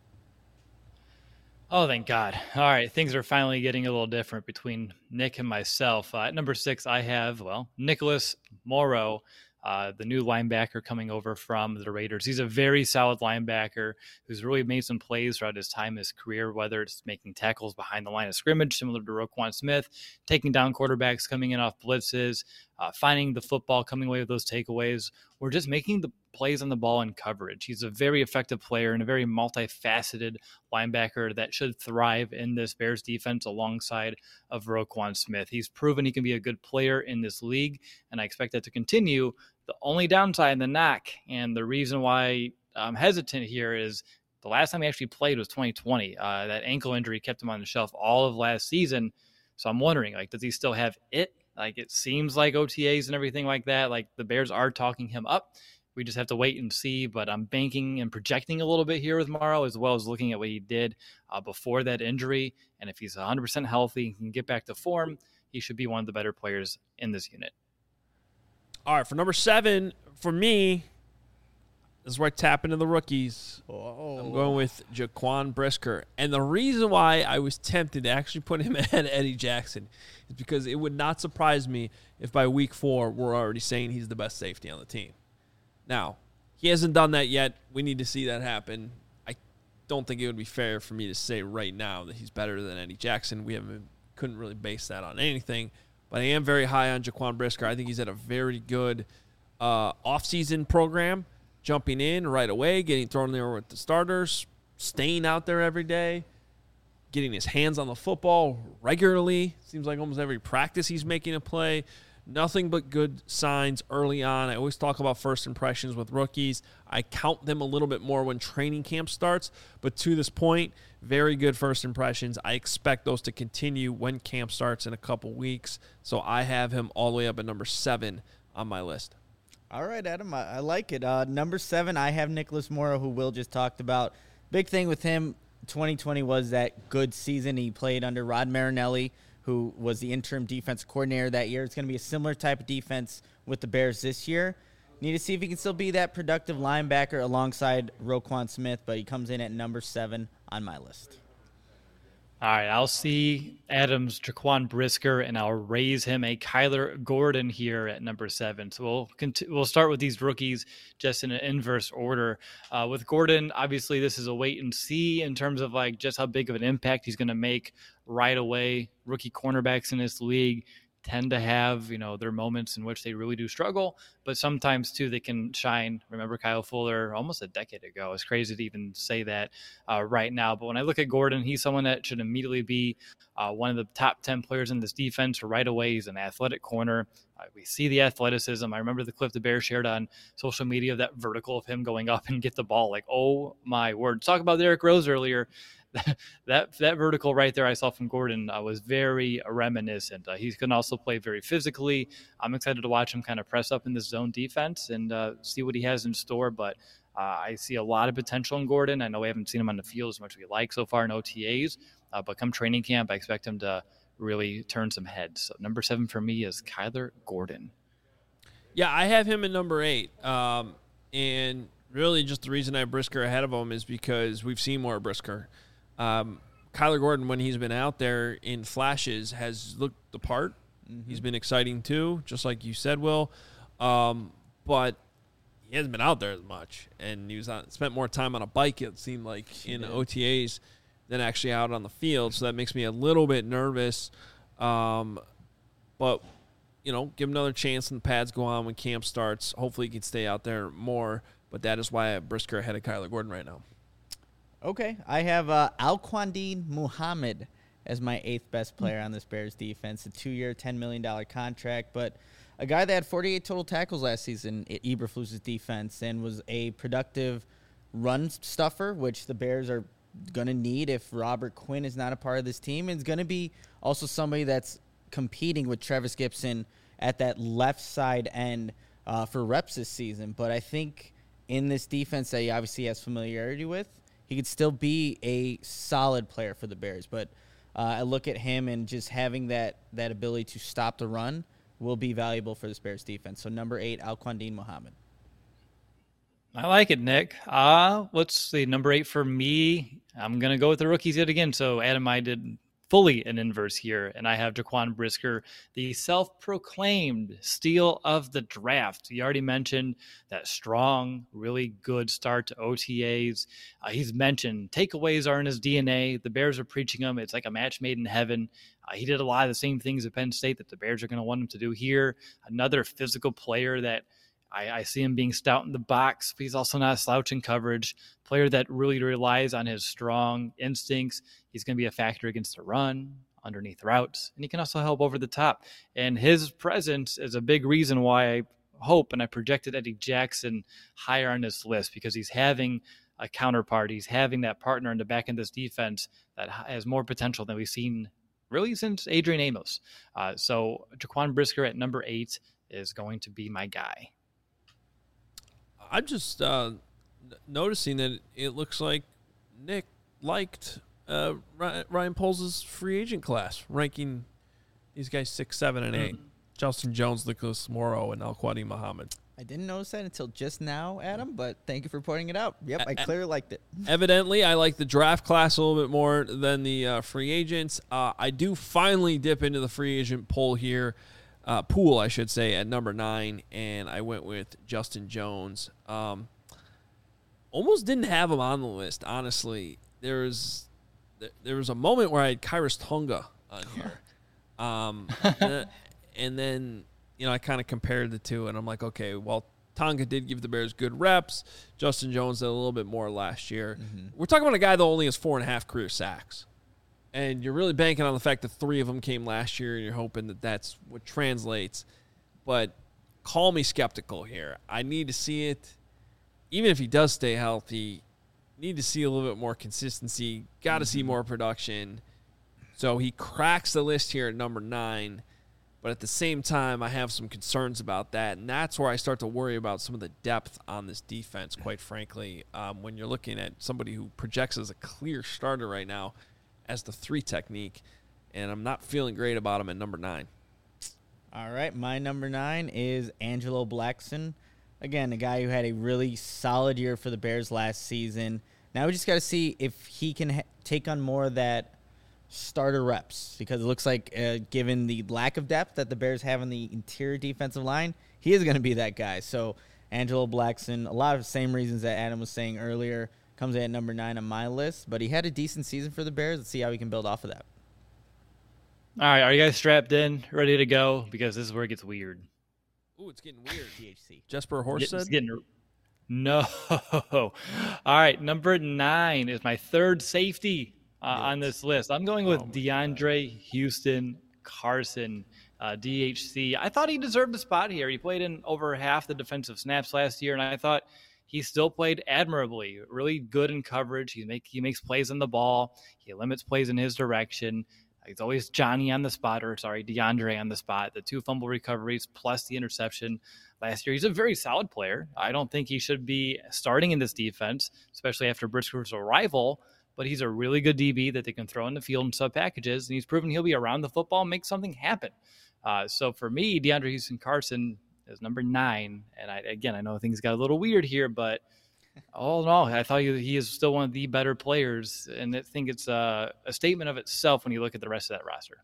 Oh, thank God. All right, things are finally getting a little different between Nick and myself. Uh, at number six, I have, well, Nicholas Morrow, uh, the new linebacker coming over from the Raiders. He's a very solid linebacker who's really made some plays throughout his time in his career, whether it's making tackles behind the line of scrimmage, similar to Roquan Smith, taking down quarterbacks, coming in off blitzes, uh, finding the football, coming away with those takeaways, or just making the plays on the ball in coverage. He's a very effective player and a very multifaceted linebacker that should thrive in this Bears defense alongside of Roquan Smith. He's proven he can be a good player in this league, and I expect that to continue. The only downside, the knock, and the reason why I'm hesitant here is the last time he actually played was twenty twenty. Uh, that ankle injury kept him on the shelf all of last season. So I'm wondering, like, does he still have it? Like, it seems like O T As and everything like that, like the Bears are talking him up. We just have to wait and see, but I'm banking and projecting a little bit here with Morrow, as well as looking at what he did uh, before that injury. And if he's one hundred percent healthy and can get back to form, he should be one of the better players in this unit. All right, for number seven, for me, this is where I tap into the rookies. Oh. I'm going with Jaquan Brisker. And the reason why I was tempted to actually put him ahead of Eddie Jackson is because it would not surprise me if by week four we're already saying he's the best safety on the team. Now, he hasn't done that yet. We need to see that happen. I don't think it would be fair for me to say right now that he's better than Eddie Jackson. We haven't couldn't really base that on anything. But I am very high on Jaquan Brisker. I think he's at a very good uh, offseason program, jumping in right away, getting thrown there with the starters, staying out there every day, getting his hands on the football regularly. Seems like almost every practice he's making a play. Nothing but good signs early on. I always talk about first impressions with rookies. I count them a little bit more when training camp starts. But to this point, very good first impressions. I expect those to continue when camp starts in a couple weeks. So I have him all the way up at number seven on my list. All right, Adam, I, I like it. Uh, number seven, I have Nicholas Morrow, who Will just talked about. Big thing with him, twenty twenty was that good season. He played under Rod Marinelli, who was the interim defense coordinator that year. It's going to be a similar type of defense with the Bears this year. Need to see if he can still be that productive linebacker alongside Roquan Smith, but he comes in at number seven on my list. All right, I'll see Adams, Jaquan Brisker, and I'll raise him a Kyler Gordon here at number seven. So we'll cont- we'll start with these rookies just in an inverse order. Uh, with Gordon, obviously this is a wait and see in terms of like just how big of an impact he's going to make right away. Rookie cornerbacks in this league tend to have, you know, their moments in which they really do struggle, but sometimes too they can shine. Remember Kyle Fuller almost a decade ago. It's crazy to even say that uh, right now. But when I look at Gordon, he's someone that should immediately be uh, one of the top ten players in this defense right away. He's an athletic corner. Uh, we see the athleticism. I remember the clip the Bears shared on social media of that vertical of him going up and get the ball. Like, oh my word. Talk about Derrick Rose earlier. that that vertical right there I saw from Gordon uh, was very reminiscent. Uh, he can also play very physically. I'm excited to watch him kind of press up in this zone defense and uh, see what he has in store. But uh, I see a lot of potential in Gordon. I know we haven't seen him on the field as much as we like so far in O T As, uh, but come training camp, I expect him to really turn some heads. So number seven for me is Kyler Gordon. Yeah, I have him at number eight. Um, and really just the reason I have Brisker ahead of him is because we've seen more Brisker. Um, Kyler Gordon, when he's been out there in flashes, has looked the part. Mm-hmm. He's been exciting too, just like you said, Will. Um, but he hasn't been out there as much, and he was on, spent more time on a bike, it seemed like, he in did. O T As than actually out on the field. So that makes me a little bit nervous. Um, but, you know, give him another chance when the pads go on when camp starts. Hopefully he can stay out there more. But that is why I have Brisker ahead of Kyler Gordon right now. Okay, I have uh, Alquandine Muhammad as my eighth best player on this Bears defense. A two-year, ten million dollars contract, but a guy that had forty-eight total tackles last season at Eberflus's defense and was a productive run stuffer, which the Bears are going to need if Robert Quinn is not a part of this team. And it's going to be also somebody that's competing with Travis Gibson at that left side end uh, for reps this season. But I think in this defense that he obviously has familiarity with, he could still be a solid player for the Bears. But uh, I look at him and just having that that ability to stop the run will be valuable for this Bears defense. So number eight, Alquandine Muhammad. I like it, Nick. Uh, let's see, number eight for me. I'm going to go with the rookies yet again. So Adam, I did fully an inverse here, and I have Jaquan Brisker, the self-proclaimed steal of the draft. You already mentioned that strong, really good start to O T As. Uh, he's mentioned takeaways are in his D N A. The Bears are preaching them. It's like a match made in heaven. Uh, he did a lot of the same things at Penn State that the Bears are going to want him to do here. Another physical player that I, I see him being stout in the box, but he's also not a slouch in coverage. Player that really relies on his strong instincts. He's going to be a factor against the run, underneath routes, and he can also help over the top. And his presence is a big reason why I hope and I projected Eddie Jackson higher on this list, because he's having a counterpart. He's having that partner in the back end of this defense that has more potential than we've seen really since Adrian Amos. Uh, so Jaquan Brisker at number eight is going to be my guy. I'm just uh, noticing that it looks like Nick liked uh, Ryan Poles' free agent class, ranking these guys six, seven, and eight. Mm. Justin Jones, Nicholas Morrow, and Al-Quadi Muhammad. I didn't notice that until just now, Adam, but thank you for pointing it out. Yep, I clearly liked it. Evidently, I like the draft class a little bit more than the uh, free agents. Uh, I do finally dip into the free agent poll here, uh, pool, I should say, at number nine, and I went with Justin Jones. Um, almost didn't have him on the list, honestly. There was, there was a moment where I had Khyiris Tonga on here. um, and, and then... You know, I kind of compared the two, and I'm like, okay, well, Tonga did give the Bears good reps. Justin Jones did a little bit more last year. Mm-hmm. We're talking about a guy that only has four and a half career sacks. And you're really banking on the fact that three of them came last year, and you're hoping that that's what translates. But call me skeptical here. I need to see it. Even if he does stay healthy, need to see a little bit more consistency. Got to mm-hmm. see more production. So he cracks the list here at number nine. But at the same time, I have some concerns about that, and that's where I start to worry about some of the depth on this defense, quite frankly, um, when you're looking at somebody who projects as a clear starter right now as the three technique, and I'm not feeling great about him at number nine. All right, my number nine is Angelo Blackson. Again, a guy who had a really solid year for the Bears last season. Now we just got to see if he can ha- take on more of that starter reps, because it looks like uh, given the lack of depth that the Bears have in the interior defensive line, he is going to be that guy. So Angelo Blackson, a lot of the same reasons that Adam was saying earlier, comes in at number nine on my list, but he had a decent season for the Bears. Let's see how we can build off of that. All right, are you guys strapped in, ready to go? Because this is where it gets weird. Ooh, it's getting weird. T H C. Jesper Horsted? It's getting No. All right, number nine is my third safety Uh, yes. on this list. I'm going with oh DeAndre God. Houston Carson, uh, D H C. I thought he deserved a spot here. He played in over half the defensive snaps last year, and I thought he still played admirably, really good in coverage. He make he makes plays on the ball. He limits plays in his direction. He's always Johnny on the spot, or sorry, DeAndre on the spot. The two fumble recoveries plus the interception last year. He's a very solid player. I don't think he should be starting in this defense, especially after Brisker's arrival. But he's a really good D B that they can throw in the field in sub packages, and he's proven he'll be around the football and make something happen. Uh, so for me, DeAndre Houston Carson is number nine. And I, again, I know things got a little weird here, but all in all, I thought he, he is still one of the better players. And I think it's a, a statement of itself when you look at the rest of that roster.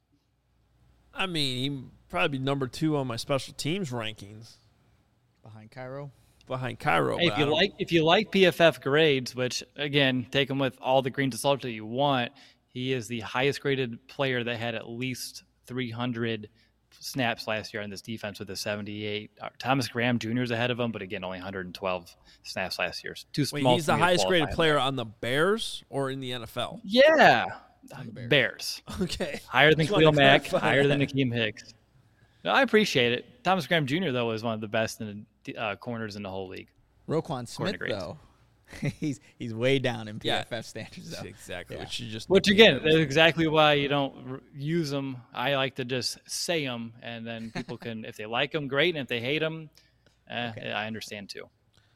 I mean, he probably be number two on my special teams rankings. Behind Cairo? Behind Cairo. Hey, if you like, if you like P F F grades, which again, take them with all the grains of salt that you want, he is the highest graded player that had at least three hundred snaps last year on this defense with a seventy-eight. Uh, Thomas Graham Junior is ahead of him, but again, only one hundred twelve snaps last year. Too small. Wait, he's the highest graded player on the Bears or in the N F L? Yeah, Bears. Bears. Okay, higher than Khalil Mack, higher than Akeem Hicks. No, I appreciate it. Thomas Graham Junior though is one of the best in the uh, corners in the whole league. Roquan Smith though, he's he's way down in P F F yeah. standards though. Exactly. Yeah. Which you just which again, that's exactly why you don't r- use them. I like to just say them, and then people can, if they like them, great, and if they hate them, eh, okay. I understand too.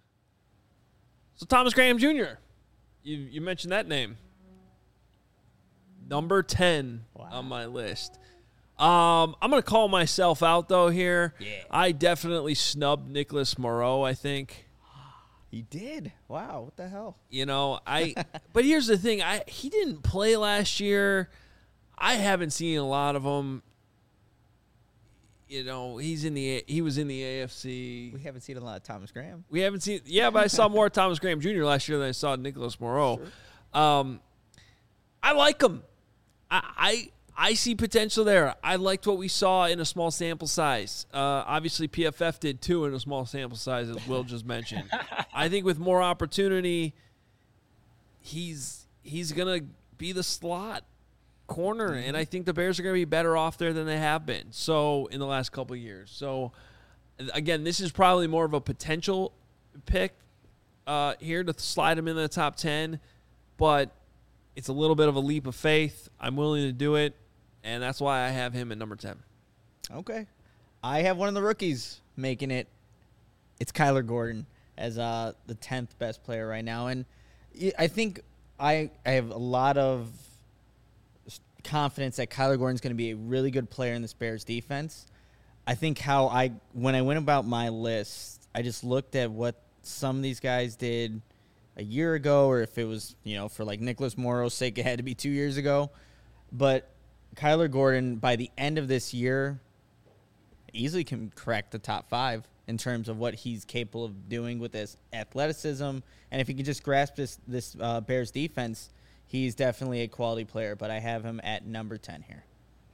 So Thomas Graham Junior, you you mentioned that name, number ten wow. on my list. Um, I'm going to call myself out, though, here. Yeah. I definitely snubbed Nicholas Morrow, I think. He did? Wow, what the hell? You know, I. But here's the thing. I He didn't play last year. I haven't seen a lot of him. You know, he's in the he was in the A F C. We haven't seen a lot of Thomas Graham. We haven't seen. Yeah, but I saw more Thomas Graham Junior last year than I saw Nicholas Morrow. Sure. Um, I like him. I... I I see potential there. I liked what we saw in a small sample size. Uh, obviously, P F F did too in a small sample size, as Will just mentioned. I think with more opportunity, he's he's going to be the slot corner, and I think the Bears are going to be better off there than they have been so in the last couple of years. So, again, this is probably more of a potential pick uh, here to slide him in the top ten, but it's a little bit of a leap of faith. I'm willing to do it. and that's why I have him at number ten. Okay. I have one of the rookies making it. It's Kyler Gordon as uh, the tenth best player right now. And I think I, I have a lot of confidence that Kyler Gordon's going to be a really good player in this Bears defense. I think how I, when I went about my list, I just looked at what some of these guys did a year ago, or if it was, you know, for like Nicholas Morrow's sake, it had to be two years ago. But Kyler Gordon, by the end of this year, easily can crack the top five in terms of what he's capable of doing with his athleticism. And if he can just grasp this, this uh, Bears defense, he's definitely a quality player. But I have him at number ten here.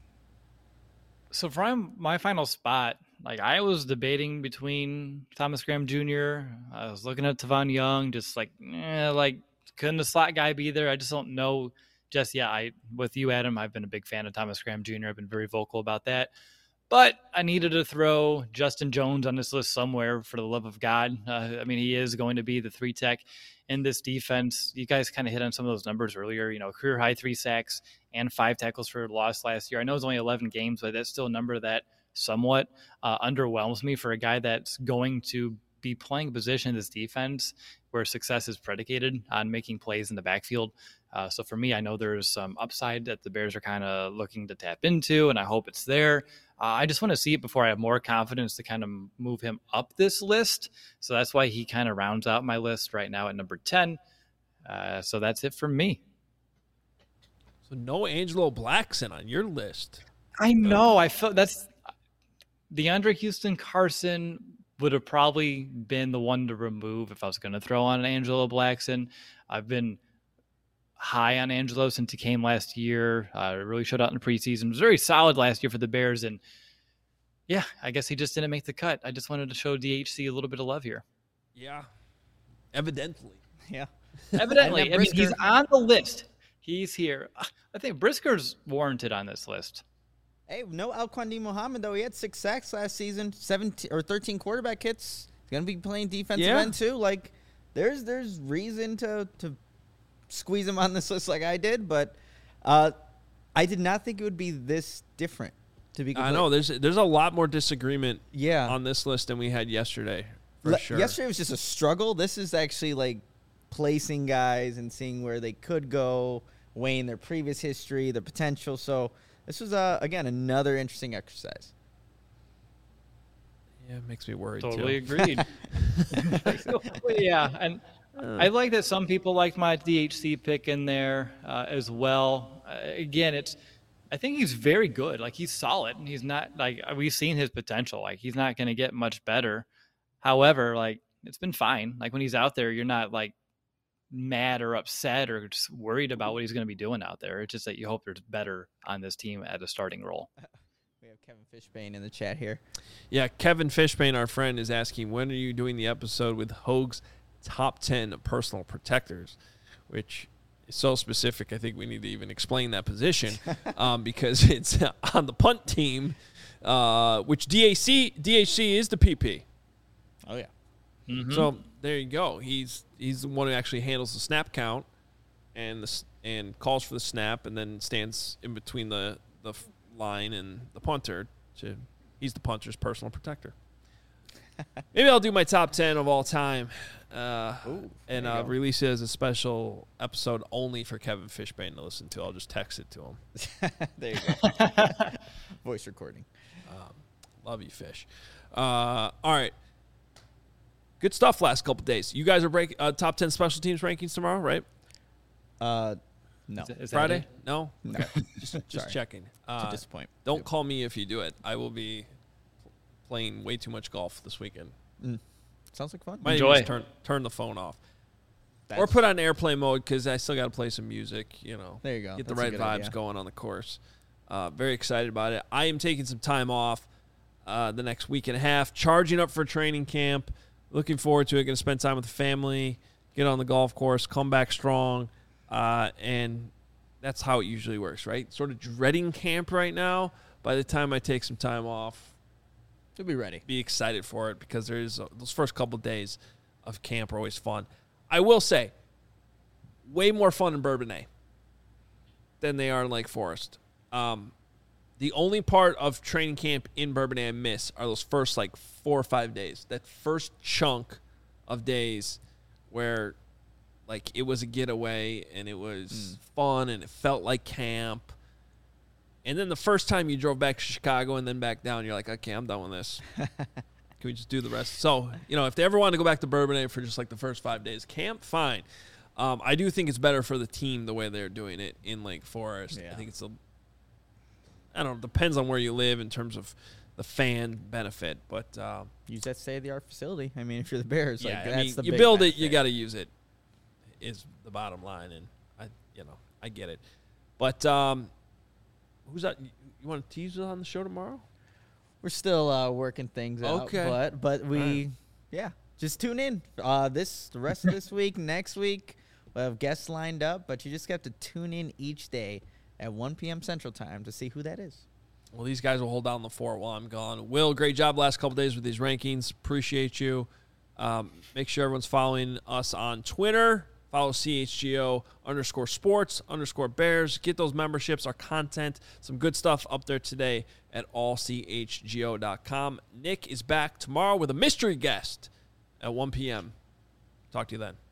So for my final spot, like I was debating between Thomas Graham Junior I was looking at Tavon Young, just like, eh, like couldn't the slot guy be there? I just don't know just yet. I, with you, Adam, I've been a big fan of Thomas Graham Junior I've been very vocal about that. But I needed to throw Justin Jones on this list somewhere for the love of God. Uh, I mean, he is going to be the three tech in this defense. You guys kind of hit on some of those numbers earlier, you know, career high three sacks and five tackles for loss last year. I know it's only eleven games, but that's still a number that somewhat uh, underwhelms me for a guy that's going to be playing a position in this defense where success is predicated on making plays in the backfield. Uh, so for me, I know there's some upside that the Bears are kind of looking to tap into, and I hope it's there. Uh, I just want to see it before I have more confidence to kind of move him up this list. So that's why he kind of rounds out my list right now at number ten. Uh, so that's it for me. So no Angelo Blackson on your list. I know. I felt that's DeAndre Houston Carson would have probably been the one to remove if I was going to throw on an Angelo Blackson. I've been high on Angelo since he came last year. Uh, really showed out in the preseason. It was very solid last year for the Bears. And yeah, I guess he just didn't make the cut. I just wanted to show D H C a little bit of love here. Yeah. Evidently. Yeah. Evidently. I mean, he's on the list. He's here. I think Brisker's warranted on this list. Hey, no Alquan D. Muhammad, though. He had six sacks last season, seventeen or thirteen quarterback hits. He's going to be playing defensive yeah. end, too. Like, there's there's reason to, to squeeze him on this list like I did, but uh, I did not think it would be this different, to be I know. There's there's a lot more disagreement yeah. on this list than we had yesterday, for Le- sure. Yesterday was just a struggle. This is actually, like, placing guys and seeing where they could go, weighing their previous history, their potential. So this was, uh, again, another interesting exercise. Yeah, it makes me worried, totally too. Agreed. Yeah, and uh, I like that some people like my D H C pick in there uh, as well. Uh, again, it's I think he's very good. Like, he's solid. He's not, like, we've seen his potential. Like, he's not going to get much better. However, like, it's been fine. Like, when he's out there, you're not, like, mad or upset or just worried about what he's going to be doing out there. It's just that you hope there's better on this team at a starting role. We have Kevin Fishbane in the chat here. Yeah, Kevin Fishbane, our friend, is asking, when are you doing the episode with Hoag's top ten personal protectors, which is so specific, I think we need to even explain that position um, because it's on the punt team, uh, which D H C, D H C is the P P. Oh, yeah. Mm-hmm. So there you go. He's he's the one who actually handles the snap count and the and calls for the snap, and then stands in between the the line and the punter. To, he's the punter's personal protector. Maybe I'll do my top ten of all time, uh, Ooh, and uh, release it as a special episode only for Kevin Fishbane to listen to. I'll just text it to him. There you go. Voice recording. Um, love you, Fish. Uh, all right. Good stuff last couple days. You guys are break uh, top ten special teams rankings tomorrow, right? Uh, no. Is, is Friday? It? No? No. Okay. Just, just Sorry. checking. Uh, to disappoint. don't call me if you do it. I will be playing way too much golf this weekend. Mm. Sounds like fun. Might Enjoy. even just turn, turn the phone off. That's, Or put on airplane mode because I still got to play some music, you know. There you go. Get the That's a right good vibes idea. going on the course. Uh, very excited about it. I am taking some time off uh, the next week and a half, charging up for training camp. Looking forward to it. Going to spend time with the family, get on the golf course, come back strong. Uh, and that's how it usually works, right? Sort of dreading camp right now. By the time I take some time off, You'll be ready. be excited for it because there's uh, those first couple of days of camp are always fun. I will say, way more fun in Bourbonnais than they are in Lake Forest. Um, the only part of training camp in Bourbonnais I miss are those first like four or five days. That first chunk of days where like it was a getaway and it was mm. fun and it felt like camp. And then the first time you drove back to Chicago and then back down, you're like, okay, I'm done with this. Can we just do the rest? So, you know, if they ever want to go back to Bourbonnais for just like the first five days camp, fine. Um, I do think it's better for the team the way they're doing it in Lake Forest. Yeah. I think it's a, I don't know, depends on where you live in terms of the fan benefit, but uh, use that state-of-the-art facility. I mean, if you're the Bears, yeah, like I that's mean, the you big build benefit. it, you got to use it. Is the bottom line, and I, you know, I get it. But um, who's that? You, you want to tease on the show tomorrow? We're still uh, working things out. Okay, but but we, right. yeah, just tune in. Uh, this the rest of this week, next week, we'll have guests lined up. But you just have to tune in each day at one p.m. Central Time to see who that is. Well, these guys will hold down the fort while I'm gone. Will, great job last couple days with these rankings. Appreciate you. Um, make sure everyone's following us on Twitter. Follow C H G O underscore sports underscore Bears. Get those memberships, our content, some good stuff up there today at all c h g o dot com. Nick is back tomorrow with a mystery guest at one p.m. Talk to you then.